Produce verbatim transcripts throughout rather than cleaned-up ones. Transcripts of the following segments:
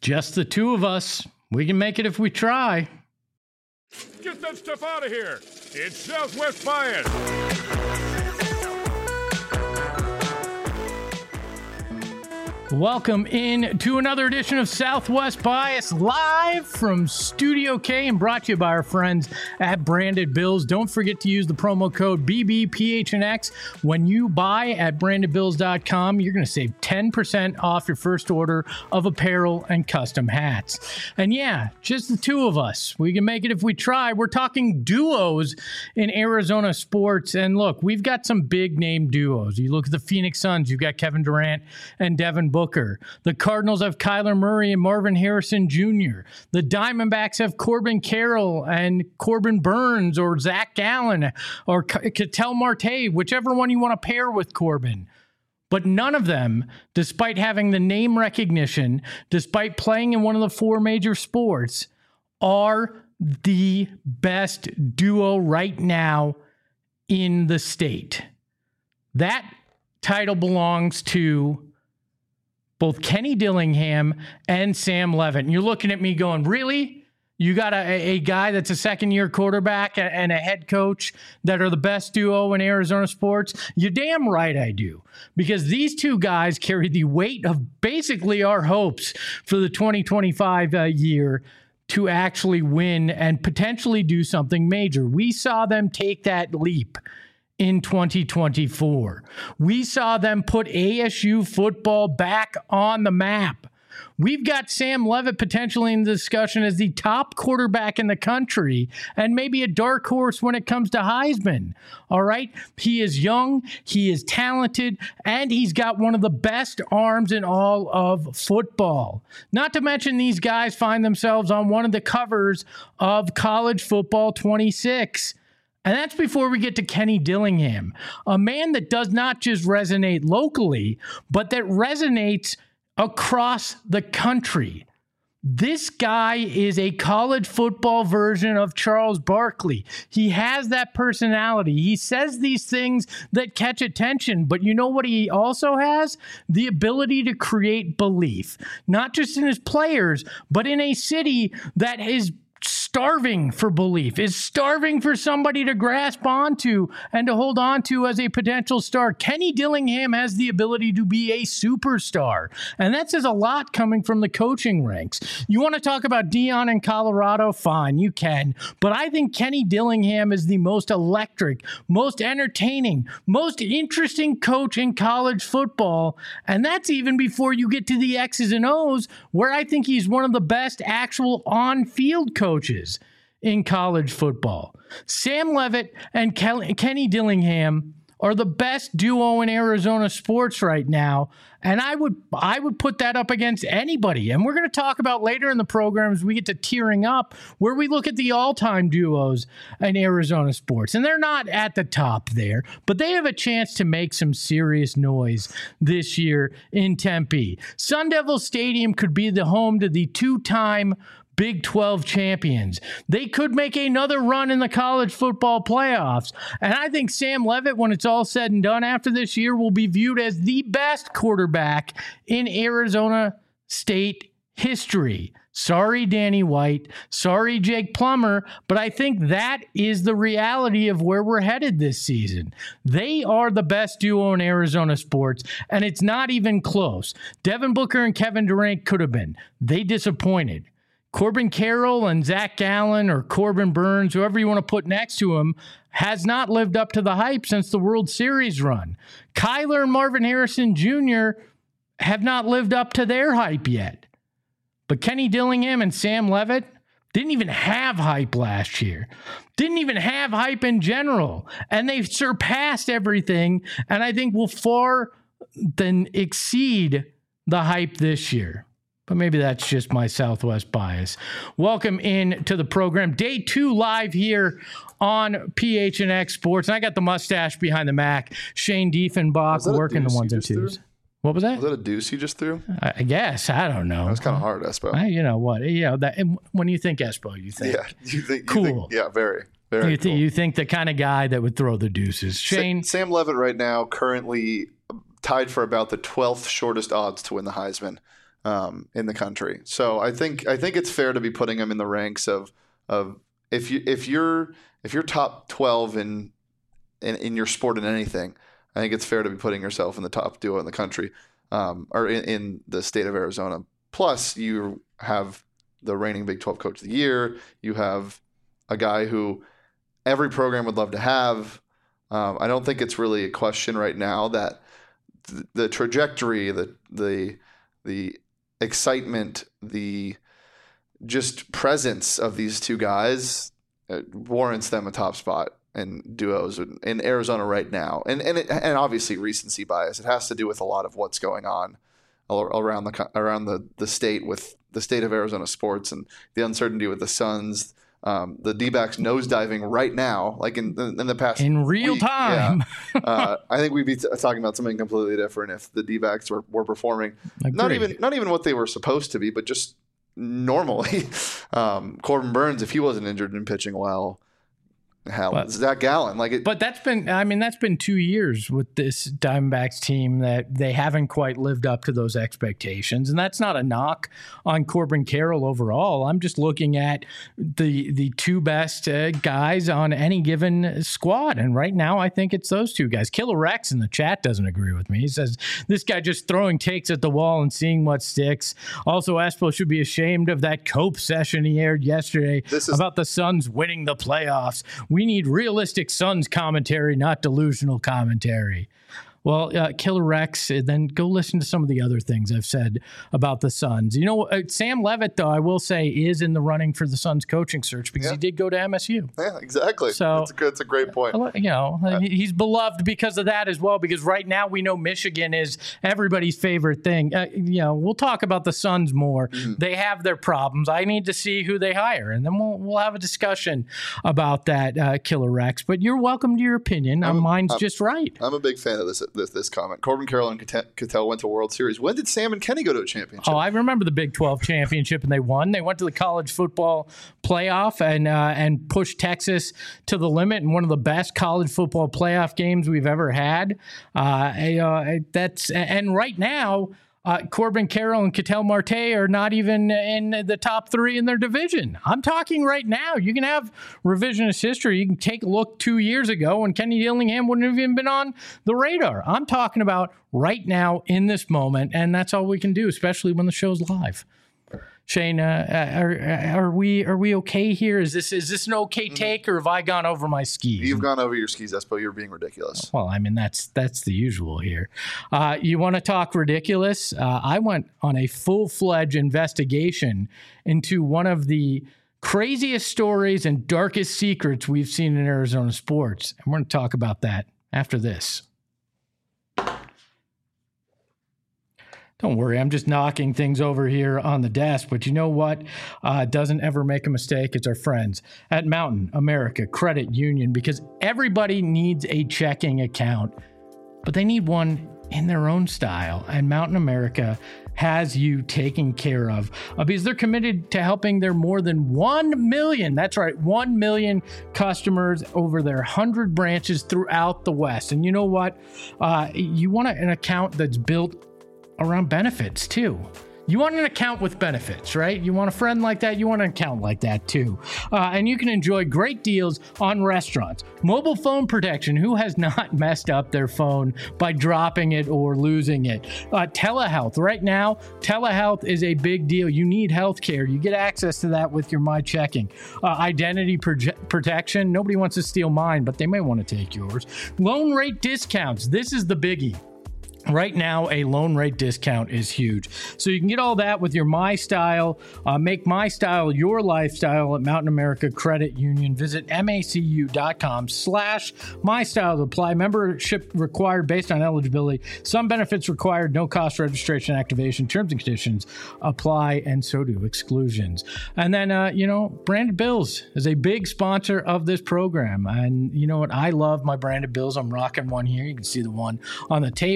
Just the two of us. We can make it if we try. Get that stuff out of here. It's Southwest Bias. Welcome in to another edition of Southwest Bias, live from Studio K and brought to you by our friends at Branded Bills. Don't forget to use the promo code B B P H N X when you buy at branded bills dot com. You're going to save ten percent off your first order of apparel and custom hats. And yeah, just the two of us. We can make it if we try. We're talking duos in Arizona sports. And look, we've got some big name duos. You look at the Phoenix Suns, you've got Kevin Durant and Devin Booker. Booker. The Cardinals have Kyler Murray and Marvin Harrison Junior The Diamondbacks have Corbin Carroll and Corbin Burns or Zach Gallen or Ketel Marte, whichever one you want to pair with Corbin. But none of them, despite having the name recognition, despite playing in one of the four major sports, are the best duo right now in the state. That title belongs to both Kenny Dillingham and Sam Levitt. And you're looking at me going, really? You got a, a guy that's a second-year quarterback and a head coach that are the best duo in Arizona sports? You're damn right I do. Because these two guys carry the weight of basically our hopes for the twenty twenty-five uh, year to actually win and potentially do something major. We saw them take that leap in twenty twenty-four. We saw them put A S U football back on the map. We've got Sam Levitt potentially in the discussion as the top quarterback in the country and maybe a dark horse when it comes to Heisman. All right. He is young, he is talented, and he's got one of the best arms in all of football. Not to mention these guys find themselves on one of the covers of College Football twenty-six. And that's before we get to Kenny Dillingham, a man that does not just resonate locally, but that resonates across the country. This guy is a college football version of Charles Barkley. He has that personality. He says these things that catch attention, but you know what he also has? The ability to create belief, not just in his players, but in a city that is starving for belief, is starving for somebody to grasp onto and to hold on to as a potential star. Kenny Dillingham has the ability to be a superstar, and that says a lot coming from the coaching ranks. You want to talk about Dion in Colorado? Fine, you can, but I think Kenny Dillingham is the most electric, most entertaining, most interesting coach in college football, and that's even before you get to the X's and O's, where I think he's one of the best actual on-field coaches in college football. Sam Levitt and Kel- Kenny Dillingham are the best duo in Arizona sports right now, and I would I would put that up against anybody. And we're going to talk about later in the program as we get to tearing up, where we look at the all-time duos in Arizona sports. And they're not at the top there, but they have a chance to make some serious noise this year in Tempe. Sun Devil Stadium could be the home to the two-time Big twelve champions. They could make another run in the college football playoffs. And I think Sam Levitt, when it's all said and done after this year, will be viewed as the best quarterback in Arizona State history. Sorry, Danny White. Sorry, Jake Plummer. But I think that is the reality of where we're headed this season. They are the best duo in Arizona sports, and it's not even close. Devin Booker and Kevin Durant could have been. They disappointed. Corbin Carroll and Zach Gallen or Corbin Burns, whoever you want to put next to him, has not lived up to the hype since the World Series run. Kyler and Marvin Harrison Junior have not lived up to their hype yet. But Kenny Dillingham and Sam Levitt didn't even have hype last year. Didn't even have hype in general. And they've surpassed everything, and I think will far than exceed the hype this year. But maybe that's just my Southwest bias. Welcome in to the program. Day two live here on P H N X Sports. And I got the mustache behind the Mac. Shane Diefenbach working the ones and twos. Threw? What was that? Was that a deuce you just threw? I guess. I don't know. That was kind of hard, Espo. I, you know what? You know, that, when you think Espo, you think yeah, you think, cool. You think, yeah, very, very you, th- cool. you think the kind of guy that would throw the deuces. Shane? Sa- Sam Levitt right now currently tied for about the twelfth shortest odds to win the Heisman. um, in the country. So I think I think it's fair to be putting him in the ranks of of if you if you're if you're top twelve in in, in your sport in anything, I think it's fair to be putting yourself in the top duo in the country, um, or in, in the state of Arizona. Plus, you have the reigning Big twelve Coach of the Year. You have a guy who every program would love to have. Um, I don't think it's really a question right now that th- the trajectory, the the the excitement, the just presence of these two guys uh, warrants them a top spot in duos in, in Arizona right now. And and it, and obviously recency bias. It has to do with a lot of what's going on around the around the, the state with the state of Arizona sports and the uncertainty with the Suns. Um, the D-backs nosediving right now, like in, in the past in real week. time. Yeah. uh, I think we'd be t- talking about something completely different if the D-backs were, were performing Agreed. not even not even what they were supposed to be, but just normally. um, Corbin Burns, if he wasn't injured and pitching well, hell, but, Zach Gallen, like it. But that's been, I mean, that's been two years with this Diamondbacks team that they haven't quite lived up to those expectations, and that's not a knock on Corbin Carroll overall. I'm just looking at the the two best uh, guys on any given squad, and right now I think it's those two guys. Killer Rex in the chat doesn't agree with me. He says this guy just throwing takes at the wall and seeing what sticks. Also, Espo should be ashamed of that Cope session he aired yesterday is- about the Suns winning the playoffs. We need realistic Suns commentary, not delusional commentary. Well, uh, Killer Rex, then go listen to some of the other things I've said about the Suns. You know, uh, Sam Levitt, though, I will say, is in the running for the Suns coaching search because yeah. he did go to M S U. Yeah, exactly. So that's a, good, that's a great point. You know, uh, he's beloved because of that as well, because right now we know Michigan is everybody's favorite thing. Uh, you know, we'll talk about the Suns more. Mm-hmm. They have their problems. I need to see who they hire, and then we'll we'll have a discussion about that, uh, Killer Rex. But you're welcome to your opinion. I'm, Mine's I'm, just right. I'm a big fan of this this, this comment. Corbin Carroll and Cattell went to World Series. When did Sam and Kenny go to a championship? Oh, I remember the Big twelve championship, and they won. They went to the college football playoff and uh, and pushed Texas to the limit in one of the best college football playoff games we've ever had. Uh, uh, that's and right now, Uh, Corbin Carroll and Cattell Marte are not even in the top three in their division. I'm talking right now. You can have revisionist history. You can take a look two years ago when Kenny Dillingham wouldn't have even been on the radar. I'm talking about right now in this moment, and that's all we can do, especially when the show's live. Shane, uh, are, are we are we okay here? Is this is this an okay take, or have I gone over my skis? You've gone over your skis, Espo. You're being ridiculous. Well, I mean that's that's the usual here. Uh, you want to talk ridiculous? Uh, I went on a full-fledged investigation into one of the craziest stories and darkest secrets we've seen in Arizona sports, and we're going to talk about that after this. Don't worry, I'm just knocking things over here on the desk. But you know what uh, doesn't ever make a mistake? It's our friends at Mountain America Credit Union, because everybody needs a checking account, but they need one in their own style. And Mountain America has you taken care of uh, because they're committed to helping their more than one million, that's right, one million customers over their one hundred branches throughout the West. And you know what? Uh, you want an account that's built around benefits too. You want an account with benefits, right? You want a friend like that, you want an account like that too. Uh, and you can enjoy great deals on restaurants. Mobile phone protection, who has not messed up their phone by dropping it or losing it? Uh, telehealth, right now, telehealth is a big deal. You need health care. You get access to that with your My Checking. Uh, identity proje- protection, nobody wants to steal mine, but they may want to take yours. Loan rate discounts, this is the biggie. Right now, a loan rate discount is huge. So you can get all that with your My Style. Uh, make My Style your lifestyle at Mountain America Credit Union. Visit macu.com slash My Style to apply. Membership required based on eligibility. Some benefits required. No cost registration activation. Terms and conditions apply, and so do exclusions. And then, uh, you know, Branded Bills is a big sponsor of this program. And you know what? I love my Branded Bills. I'm rocking one here. You can see the one on the table.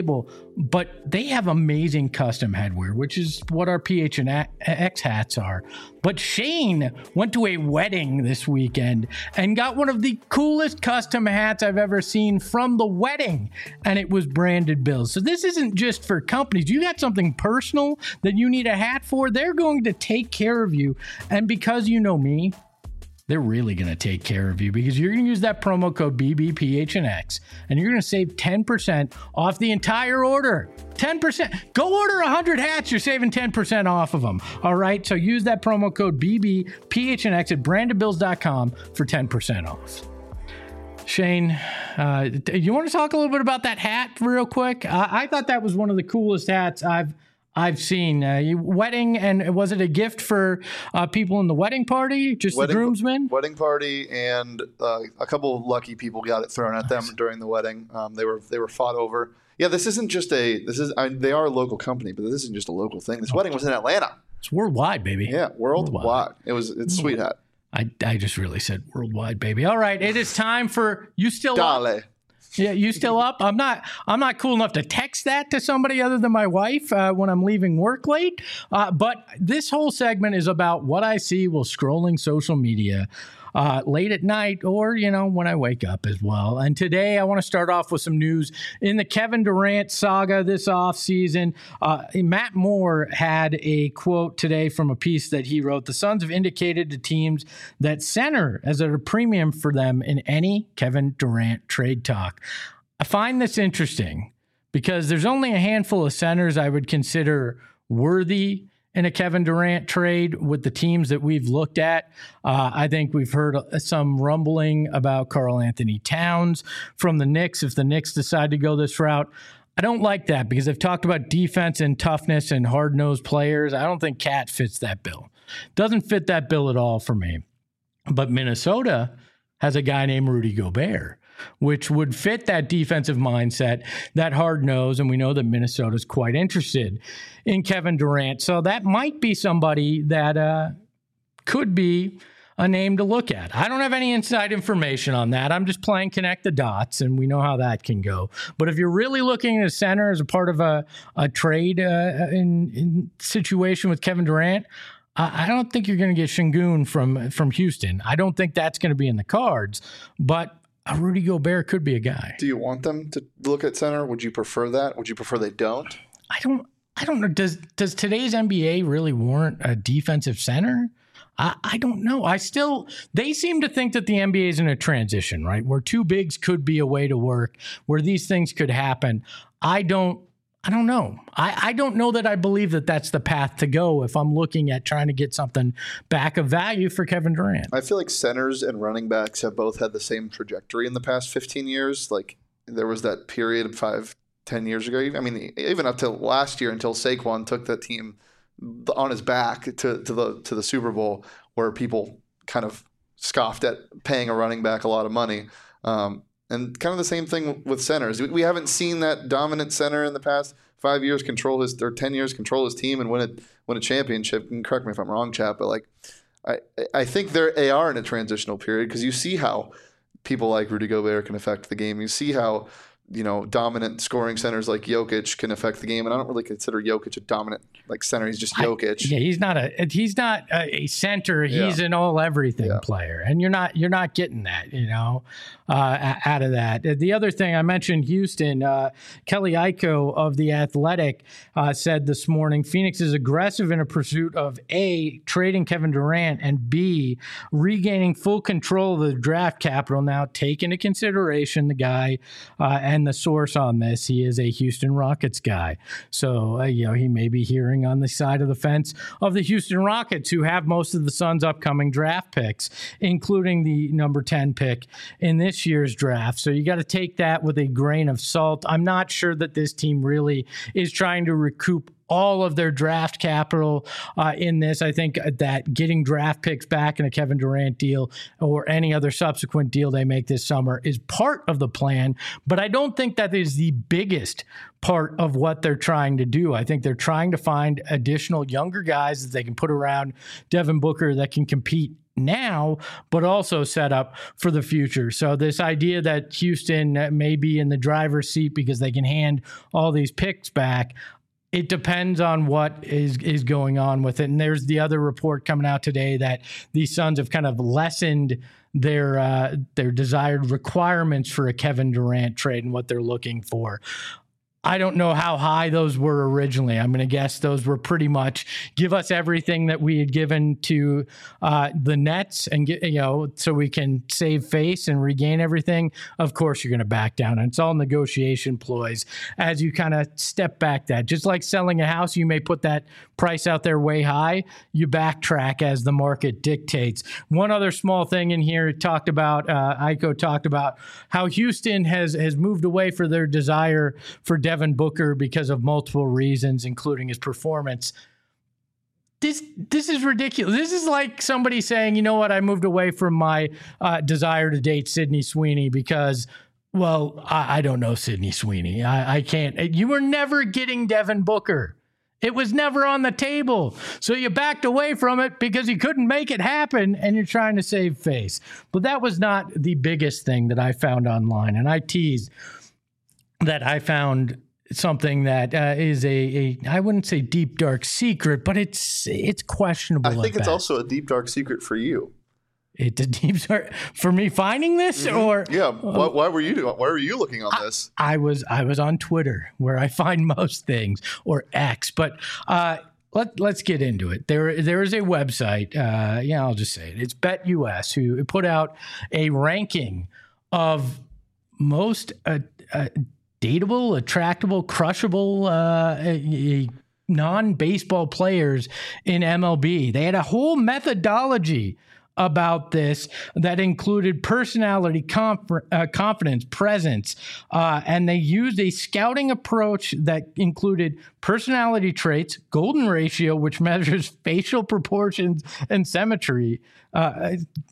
but they have amazing custom headwear, which is what our P H N X hats are. But Shane went to a wedding this weekend and got one of the coolest custom hats I've ever seen from the wedding, and it was Branded Bills. So this isn't just for companies. You got something personal that you need a hat for, they're going to take care of you. And because you know me, they're really going to take care of you, because you're going to use that promo code B B P H N X and you're going to save ten percent off the entire order. ten percent. Go order one hundred hats. You're saving ten percent off of them. All right. So use that promo code B B P H N X at branded bills dot com for ten percent off. Shane, uh, you want to talk a little bit about that hat real quick? Uh, I thought that was one of the coolest hats I've I've seen. Uh, you, wedding, and was it a gift for uh, people in the wedding party? Just wedding, the groomsmen? Wedding party, and uh, a couple of lucky people got it thrown at them during the wedding. Um, they were they were fought over. Yeah, this isn't just a this is I mean, they are a local company, but this isn't just a local thing. This oh. wedding was in Atlanta. It's worldwide, baby. Yeah, worldwide. worldwide. It was it's a sweet hat. I I just really said worldwide, baby. All right, it is time for you still Dale. Up? Yeah, you still up? I'm not. I'm not cool enough to text that to somebody other than my wife uh, when I'm leaving work late. Uh, but this whole segment is about what I see while scrolling social media uh, late at night, or you know when I wake up as well. And today I want to start off with some news in the Kevin Durant saga this offseason. Uh, Matt Moore had a quote today from a piece that he wrote. The Suns have indicated to teams that center is at a premium for them in any Kevin Durant trade talk. I find this interesting because there's only a handful of centers I would consider worthy in a Kevin Durant trade with the teams that we've looked at. Uh, I think we've heard some rumbling about Karl Anthony Towns from the Knicks if the Knicks decide to go this route. I don't like that because I've talked about defense and toughness and hard-nosed players. I don't think Cat fits that bill. Doesn't fit that bill at all for me. But Minnesota has a guy named Rudy Gobert, which would fit that defensive mindset, that hard nose, and we know that Minnesota's quite interested in Kevin Durant. So that might be somebody that uh, could be a name to look at. I don't have any inside information on that. I'm just playing connect the dots, and we know how that can go. But if you're really looking at a center as a part of a, a trade uh, in, in situation with Kevin Durant, I don't think you're going to get Şengün from, from Houston. I don't think that's going to be in the cards, but a Rudy Gobert could be a guy. Do you want them to look at center? Would you prefer that? Would you prefer they don't? I don't. I don't know. Does Does today's N B A really warrant a defensive center? I, I don't know. I still. They seem to think that the N B A is in a transition, right, where two bigs could be a way to work, where these things could happen. I don't. I don't know. I, I don't know that I believe that that's the path to go if I'm looking at trying to get something back of value for Kevin Durant. I feel like centers and running backs have both had the same trajectory in the past fifteen years. Like there was that period of five, ten years ago. I mean, even up to last year until Saquon took the team on his back to, to the to the Super Bowl, where people kind of scoffed at paying a running back a lot of money. Um, And kind of the same thing with centers. We haven't seen that dominant center in the past five years control his or ten years control his team and win a win a championship. And correct me if I'm wrong, Chap, but like I I think they're they are in a transitional period because you see how people like Rudy Gobert can affect the game. You see how you know dominant scoring centers like Jokic can affect the game, and I don't really consider Jokic a dominant like center. He's just Jokic. I, yeah, he's not a he's not a center. He's yeah. an all everything yeah. player, and you're not you're not getting that you know uh, out of that. The other thing I mentioned, Houston, uh, Kelly Iko of The Athletic uh, said this morning, Phoenix is aggressive in a pursuit of A, trading Kevin Durant, and B, regaining full control of the draft capital. Now, take into consideration the guy uh, and the source on this. He is a Houston Rockets guy, so uh, you know he may be hearing on the side of the fence of the Houston Rockets, who have most of the Suns' upcoming draft picks, including the number ten pick in this year's draft. So you got to take that with a grain of salt. I'm not sure that this team really is trying to recoup all of their draft capital uh, in this. I think that getting draft picks back in a Kevin Durant deal or any other subsequent deal they make this summer is part of the plan, but I don't think that is the biggest part of what they're trying to do. I think they're trying to find additional younger guys that they can put around Devin Booker that can compete now, but also set up for the future. So this idea that Houston may be in the driver's seat because they can hand all these picks back, it depends on what is, is going on with it. And there's the other report coming out today that the Suns have kind of lessened their uh, their desired requirements for a Kevin Durant trade and what they're looking for. I don't know how high those were originally. I'm going to guess those were pretty much give us everything that we had given to uh, the Nets and get, you know, so we can save face and regain everything. Of course, you're going to back down. And it's all negotiation ploys as you kind of step back that. Just like selling a house, you may put that price out there way high. You backtrack as the market dictates. One other small thing in here, it talked about, uh, Iko talked about how Houston has, has moved away for their desire for Devin Booker because of multiple reasons, including his performance. This this is ridiculous. This is like somebody saying, you know what, I moved away from my uh, desire to date Sydney Sweeney because, well, I, I don't know Sydney Sweeney. I, I can't. You were never getting Devin Booker. It was never on the table. So you backed away from it because you couldn't make it happen and you're trying to save face. But that was not the biggest thing that I found online. And I teased that I found something that uh, is a, a, I wouldn't say deep, dark secret, but it's it's questionable. I think it's best. also a deep, dark secret for you. It's a deep, dark for me finding this, mm-hmm. or yeah. Why, why were you doing? Why were you looking on I, this? I was I was on Twitter where I find most things, or X, but. Uh, Let, let's get into it. There, there is a website, uh, yeah, I'll just say it. It's BetUS, who put out a ranking of most uh, uh, dateable, attractable, crushable uh, a, a non-baseball players in M L B. They had a whole methodology about this that included personality, conf- uh, confidence, presence, uh, and they used a scouting approach that included personality traits, golden ratio, which measures facial proportions and symmetry, uh,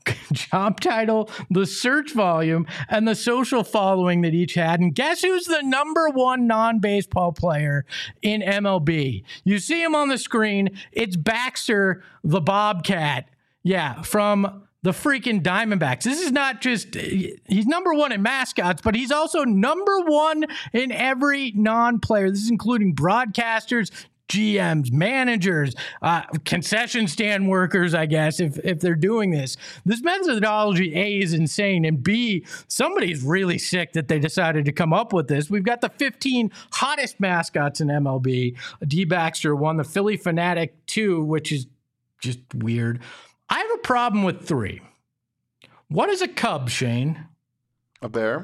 job title, the search volume, and the social following that each had. And guess who's the number one non-baseball player in M L B? You see him on the screen. It's Baxter the Bobcat. Yeah, from the freaking Diamondbacks. This is not just, he's number one in mascots, but he's also number one in every non-player. This is including broadcasters, G Ms, managers, uh, concession stand workers, I guess, if, if they're doing this. This methodology, A, is insane, and B, somebody's really sick that they decided to come up with this. We've got the fifteen hottest mascots in M L B. D. Baxter won, the Philly Fanatic two, which is just weird. I have a problem with three. What is a cub, Shane? A bear?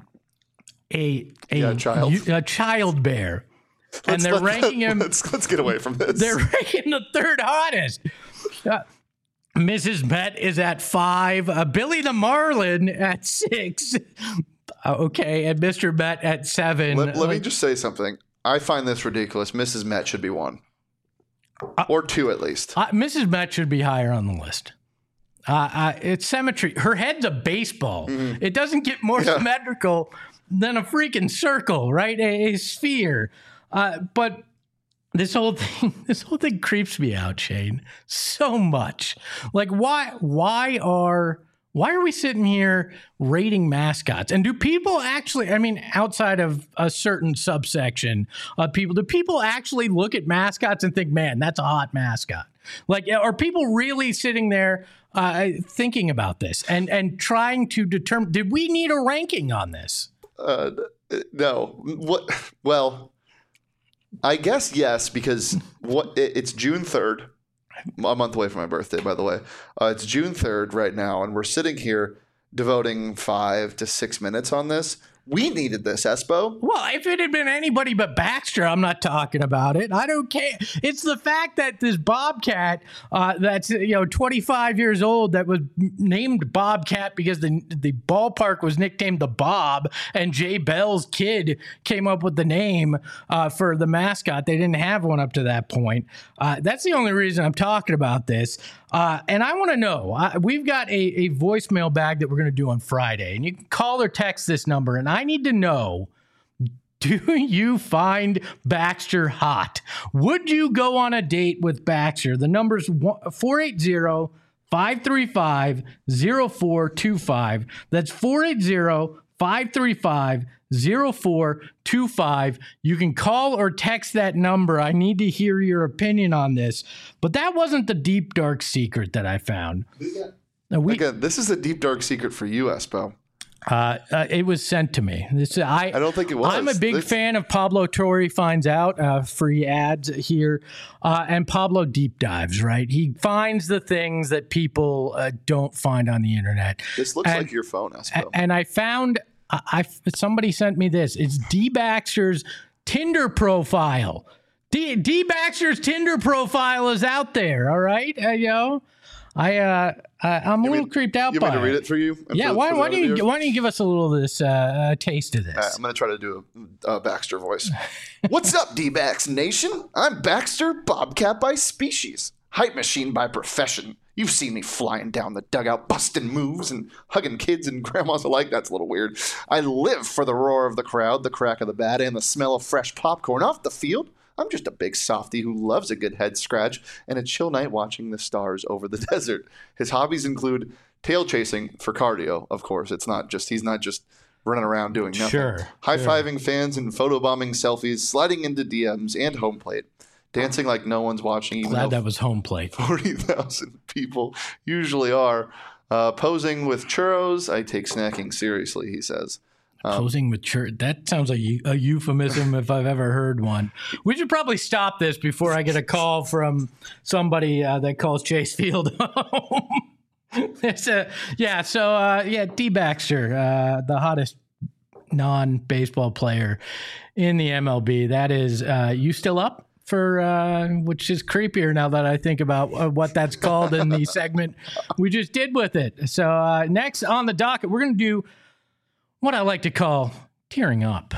A a, yeah, a child. A child bear. Let's, and they're let's, ranking him. Let's, let's get away from this. They're ranking the third hottest. Uh, Missus Met is at five. Uh, Billy the Marlin at six. Uh, okay, and Mister Met at seven. Let, let like, me just say something. I find this ridiculous. Missus Met should be one. Uh, or two at least. Uh, Missus Met should be higher on the list. Uh, uh, it's symmetry. Her head's a baseball. Mm-hmm. It doesn't get more yeah. symmetrical than a freaking circle, right? A, a sphere. Uh, but this whole thing, this whole thing creeps me out, Shane, so much. Like, why? Why are? Why are we sitting here rating mascots? And do people actually, I mean, outside of a certain subsection of people, do people actually look at mascots and think, man, that's a hot mascot? Like, are people really sitting there uh, thinking about this and, and trying to determine, did we need a ranking on this? Uh, no. What? Well, I guess yes, because what it, it's June third. A month away from my birthday, by the way. Uh, it's June third right now, and we're sitting here devoting five to six minutes on this. We needed this, Espo. Well, if it had been anybody but Baxter, I'm not talking about it. I don't care. It's the fact that this Bobcat, uh, that's you know twenty-five years old, that was named Bobcat because the the ballpark was nicknamed the Bob, and Jay Bell's kid came up with the name uh, for the mascot. They didn't have one up to that point. Uh, that's the only reason I'm talking about this. Uh, and I want to know, uh, we've got a, a voicemail bag that we're going to do on Friday, and you can call or text this number, and I need to know, do you find Baxter hot? Would you go on a date with Baxter? The number's four eight zero, five three five, zero four two five. That's four eight zero, five three five, zero four two five. You can call or text that number. I need to hear your opinion on this. But that wasn't the deep, dark secret that I found. Yeah. We, Again, this is a deep, dark secret for you, Espo. Uh, uh, it was sent to me. This I, I don't think it was. I'm a big this... fan of Pablo Torre Finds Out. Uh, free ads here. Uh, and Pablo deep dives, right? He finds the things that people uh, don't find on the internet. This looks and, like your phone, Espo. And I found... I, I somebody sent me this. It's D Baxter's Tinder profile. D, D Baxter's Tinder profile is out there. All right, uh, you know, I uh, I, I'm you a little mean, creeped out you by mean it. to read it for you? Yeah. For, why, for why don't you viewers? why don't you give us a little of this uh, uh, taste of this? Right, I'm going to try to do a, a Baxter voice. What's up, D-Bax Nation? I'm Baxter, Bobcat by species, hype machine by profession. You've seen me flying down the dugout, busting moves and hugging kids and grandmas alike. That's a little weird. I live for the roar of the crowd, the crack of the bat, and the smell of fresh popcorn off the field. I'm just a big softy who loves a good head scratch and a chill night watching the stars over the desert. His hobbies include tail chasing for cardio, of course. It's not just he's not just running around doing nothing. Sure. High-fiving sure. fans and photobombing selfies, sliding into D Ms and home plate. Dancing like no one's watching. Even Glad that was home plate. forty thousand people usually are. Uh, posing with churros. I take snacking seriously, he says. Um, Posing with churros. That sounds like a euphemism if I've ever heard one. We should probably stop this before I get a call from somebody uh, that calls Chase Field home. It's a, yeah, so, uh, yeah, D. Baxter, uh, the hottest non-baseball player in the M L B. That is, uh, you still up? For uh, which is creepier now that I think about uh, what that's called in the segment we just did with it. So uh, next on the docket, we're going to do what I like to call tearing up.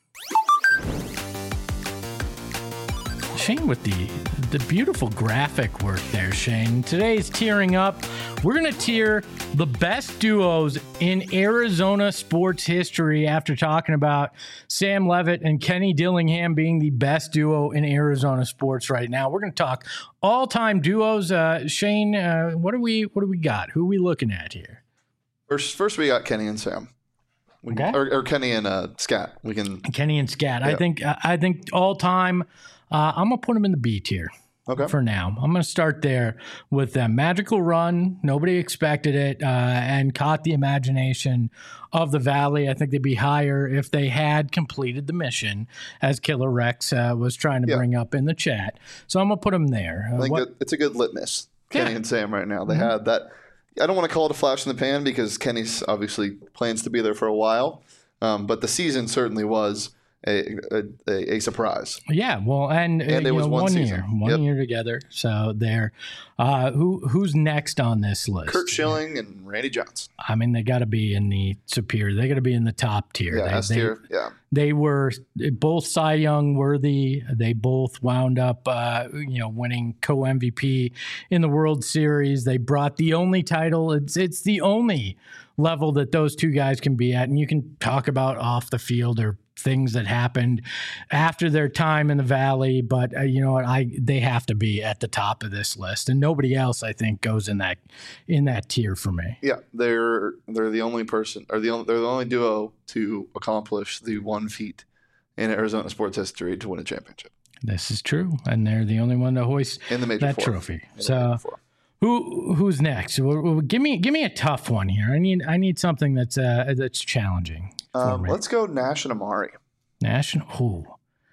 Shane with the the beautiful graphic work there, Shane. Today's tearing up. We're going to tier the best duos in Arizona sports history after talking about Sam Levitt and Kenny Dillingham being the best duo in Arizona sports right now. We're going to talk all-time duos. Uh, Shane, uh, what do we what do we got? Who are we looking at here? First, first we got Kenny and Sam. We Okay. can, or, or Kenny and uh, Scat. We can Kenny and Scat. Yeah. I think I think all-time. Uh, I'm gonna put them in the B tier. Okay. For now, I'm going to start there with them. Magical run. Nobody expected it uh, and caught the imagination of the Valley. I think they'd be higher if they had completed the mission, as Killer Rex uh, was trying to Yeah. bring up in the chat. So I'm going to put them there. Uh, I think what- that it's a good litmus. Kenny Yeah. and Sam right now. They Mm-hmm. had that. I don't want to call it a flash in the pan because Kenny's obviously plans to be there for a while. Um, but the season certainly was a a, a surprise. Yeah, well, and, And uh, it you was know, one one season. year, one Yep. year together. So there, uh, who who's next on this list? Kurt Schilling and Randy Johnson. I mean, they got to be in the superior. They got to be in the top tier. Yeah, they, S they- tier. Yeah. They were both Cy Young worthy. They both wound up, uh, you know, winning co-M V P in the World Series. They brought the only title. It's it's the only level that those two guys can be at. And you can talk about off the field or things that happened after their time in the Valley, but uh, you know what? I they have to be at the top of this list, and nobody else, I think, goes in that in that tier for me. Yeah, they're they're the only person, or the only, they're the only duo to accomplish the one feat in Arizona sports history to win a championship This is true, and they're the only one to hoist in the major that four. trophy. In the So. major four. Who who's next? Well, well, give me give me a tough one here. I need I need something that's uh that's challenging. For Um, me. let's go Nash and Amari. National. Ooh.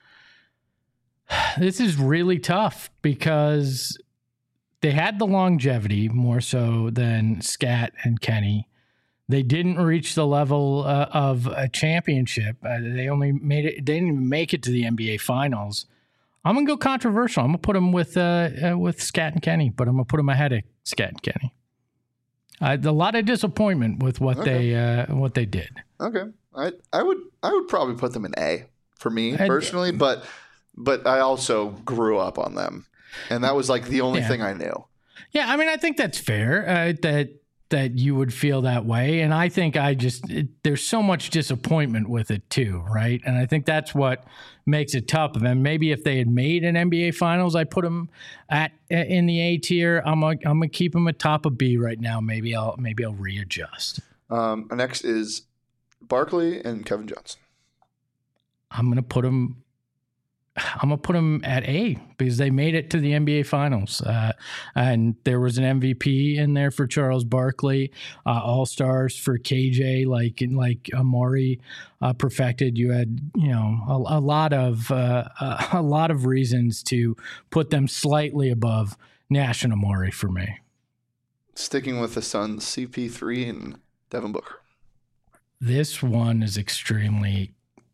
This is really tough because they had the longevity more so than Scat and Kenny. They didn't reach the level uh, of a championship. Uh, they only made it. They didn't even make it to the N B A Finals. I'm gonna go controversial. I'm gonna put them with uh, uh, with Scat and Kenny, but I'm gonna put them ahead of Scat and Kenny. Uh, a lot of disappointment with what Okay. they uh, what they did. Okay, I I would I would probably put them in A for me I'd- personally, but but I also grew up on them, and that was like the only Yeah. thing I knew. Yeah, I mean, I think that's fair. Uh, that that you would feel that way, and I think I just it, there's so much disappointment with it too, right? And I think that's what makes it tough. And maybe if they had made an N B A Finals, I put them at in the A tier. I'm gonna, I'm gonna keep them at top of B right now. Maybe I'll maybe I'll readjust. Um, next is Barkley and Kevin Johnson. I'm gonna put them. I'm gonna put them at A because they made it to the N B A Finals, uh, and there was an M V P in there for Charles Barkley, uh, All Stars for K J, like like Amari uh, perfected. You had you know a, a lot of uh, a, a lot of reasons to put them slightly above Nash and Amari for me. Sticking with the Suns, C P three and Devin Booker. This one is extremely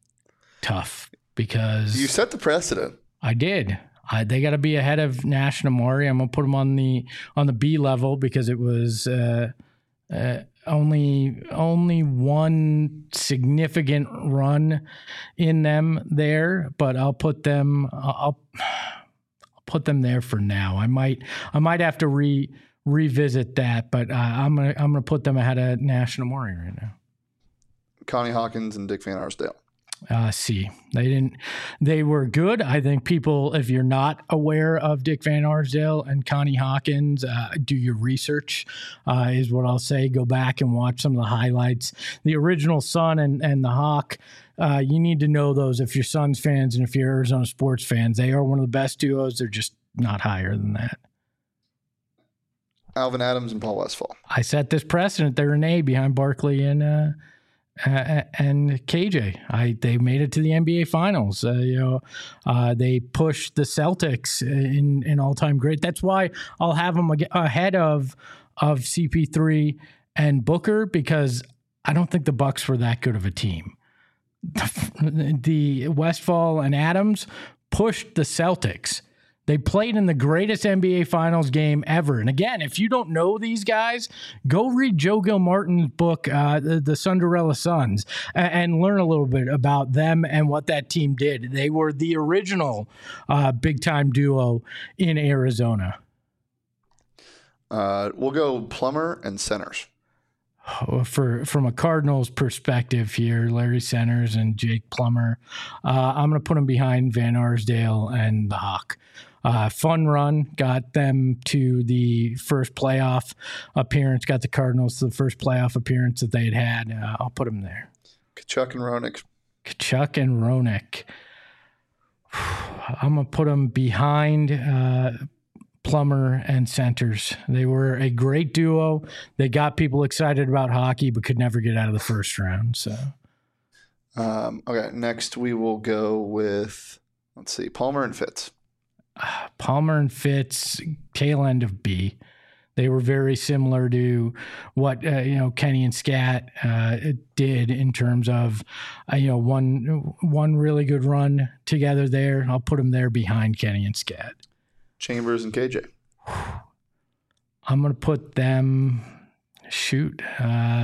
tough because You set the precedent. I did. I, they got to be ahead of Nash and Amari. I'm gonna put them on the on the B level because it was uh, uh, only only one significant run in them there. But I'll put them. I'll, I'll put them there for now. I might I might have to re revisit that, but uh, I'm gonna I'm gonna put them ahead of Nash and Amari right now. Connie Hawkins and Dick Van Arsdale. Uh, C. They didn't. They were good. I think people, if you're not aware of Dick Van Arsdale and Connie Hawkins, uh, do your research. Uh, is what I'll say. Go back and watch some of the highlights. The original Sun and and the Hawk. Uh, you need to know those if you're Suns fans and if you're Arizona sports fans. They are one of the best duos. They're just not higher than that. Alvin Adams and Paul Westphal. I set this precedent. They're an A behind Barkley and. Uh, Uh, and K J, I they made it to the N B A Finals. Uh, you know, uh, they pushed the Celtics in in all time great. That's why I'll have them ahead of of C P three and Booker because I don't think the Bucks were that good of a team. The, the Westphal and Adams pushed the Celtics. They played in the greatest N B A Finals game ever. And again, if you don't know these guys, go read Joe Gilmartin's book, uh, the, the Cinderella Suns, and, and learn a little bit about them and what that team did. They were the original uh, big-time duo in Arizona. Uh, we'll go Plummer and centers. For from a Cardinals perspective here, Larry Centers and Jake Plummer, uh, I'm going to put them behind Van Arsdale and the Hawk. Uh, fun run, got them to the first playoff appearance, got the Cardinals to the first playoff appearance that they had had. Uh, I'll put them there. Kachuk and Ronick. Kachuk and Ronick. I'm going to put them behind uh, Plummer and Centers. They were a great duo. They got people excited about hockey, but could never get out of the first round. So, um, okay, next we will go with, let's see, Palmer and Fitz. uh, Palmer and Fitz, tail end of B. They were very similar to what uh, you know Kenny and Scat uh, did in terms of uh, you know one one really good run together there. I'll put them there behind Kenny and Scat. Chambers and K J. I'm going to put them, shoot, uh,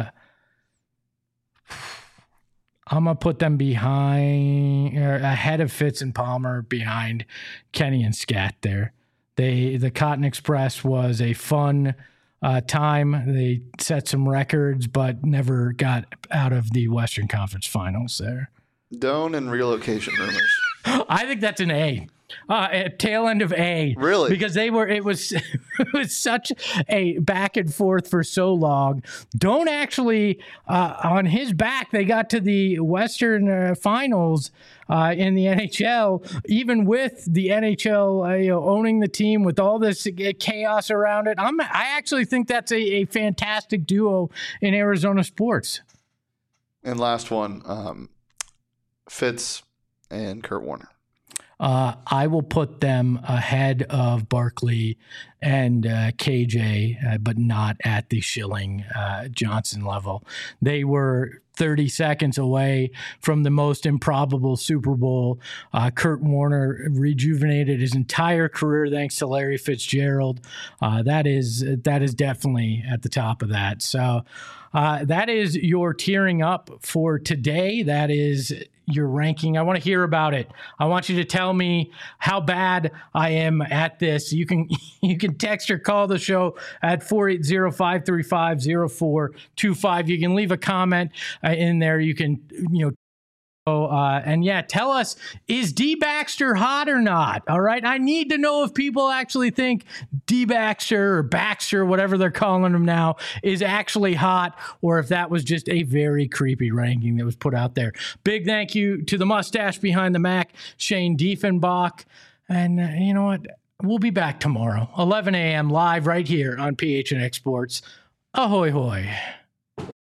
I'm going to put them behind, or ahead of Fitz and Palmer, behind Kenny and Scat there. They, the Cotton Express was a fun uh, time. They set some records, but never got out of the Western Conference Finals there. Doan and relocation rumors. I think that's an A. Uh, at tail end of A, Really? because they were. It was it was such a back and forth for so long. Don't actually uh, on his back. They got to the Western uh, Finals uh, in the N H L, even with the N H L uh, you know, owning the team with all this chaos around it. I'm. I actually think that's a, a fantastic duo in Arizona sports. And last one, um, Fitz and Kurt Warner. Uh, I will put them ahead of Barkley and uh, K J, uh, but not at the Schilling uh, Johnson level. They were thirty seconds away from the most improbable Super Bowl. Uh, Kurt Warner rejuvenated his entire career thanks to Larry Fitzgerald. Uh, that is that is definitely at the top of that. So uh, that is your tearing up for today. That is your ranking. I want to hear about it. I want you to tell me how bad I am at this. You can you can text or call the show at four eight zero, five three five, zero four two five. You can leave a comment uh, in there. You can, you know, Uh, and yeah, tell us, is D Baxter hot or not? All right. I need to know if people actually think D Baxter or Baxter, whatever they're calling him now, is actually hot, or if that was just a very creepy ranking that was put out there. Big thank you to the mustache behind the Mac, Shane Diefenbach. And uh, you know what? We'll be back tomorrow, eleven a.m. live right here on P H N X Sports. Ahoy hoy.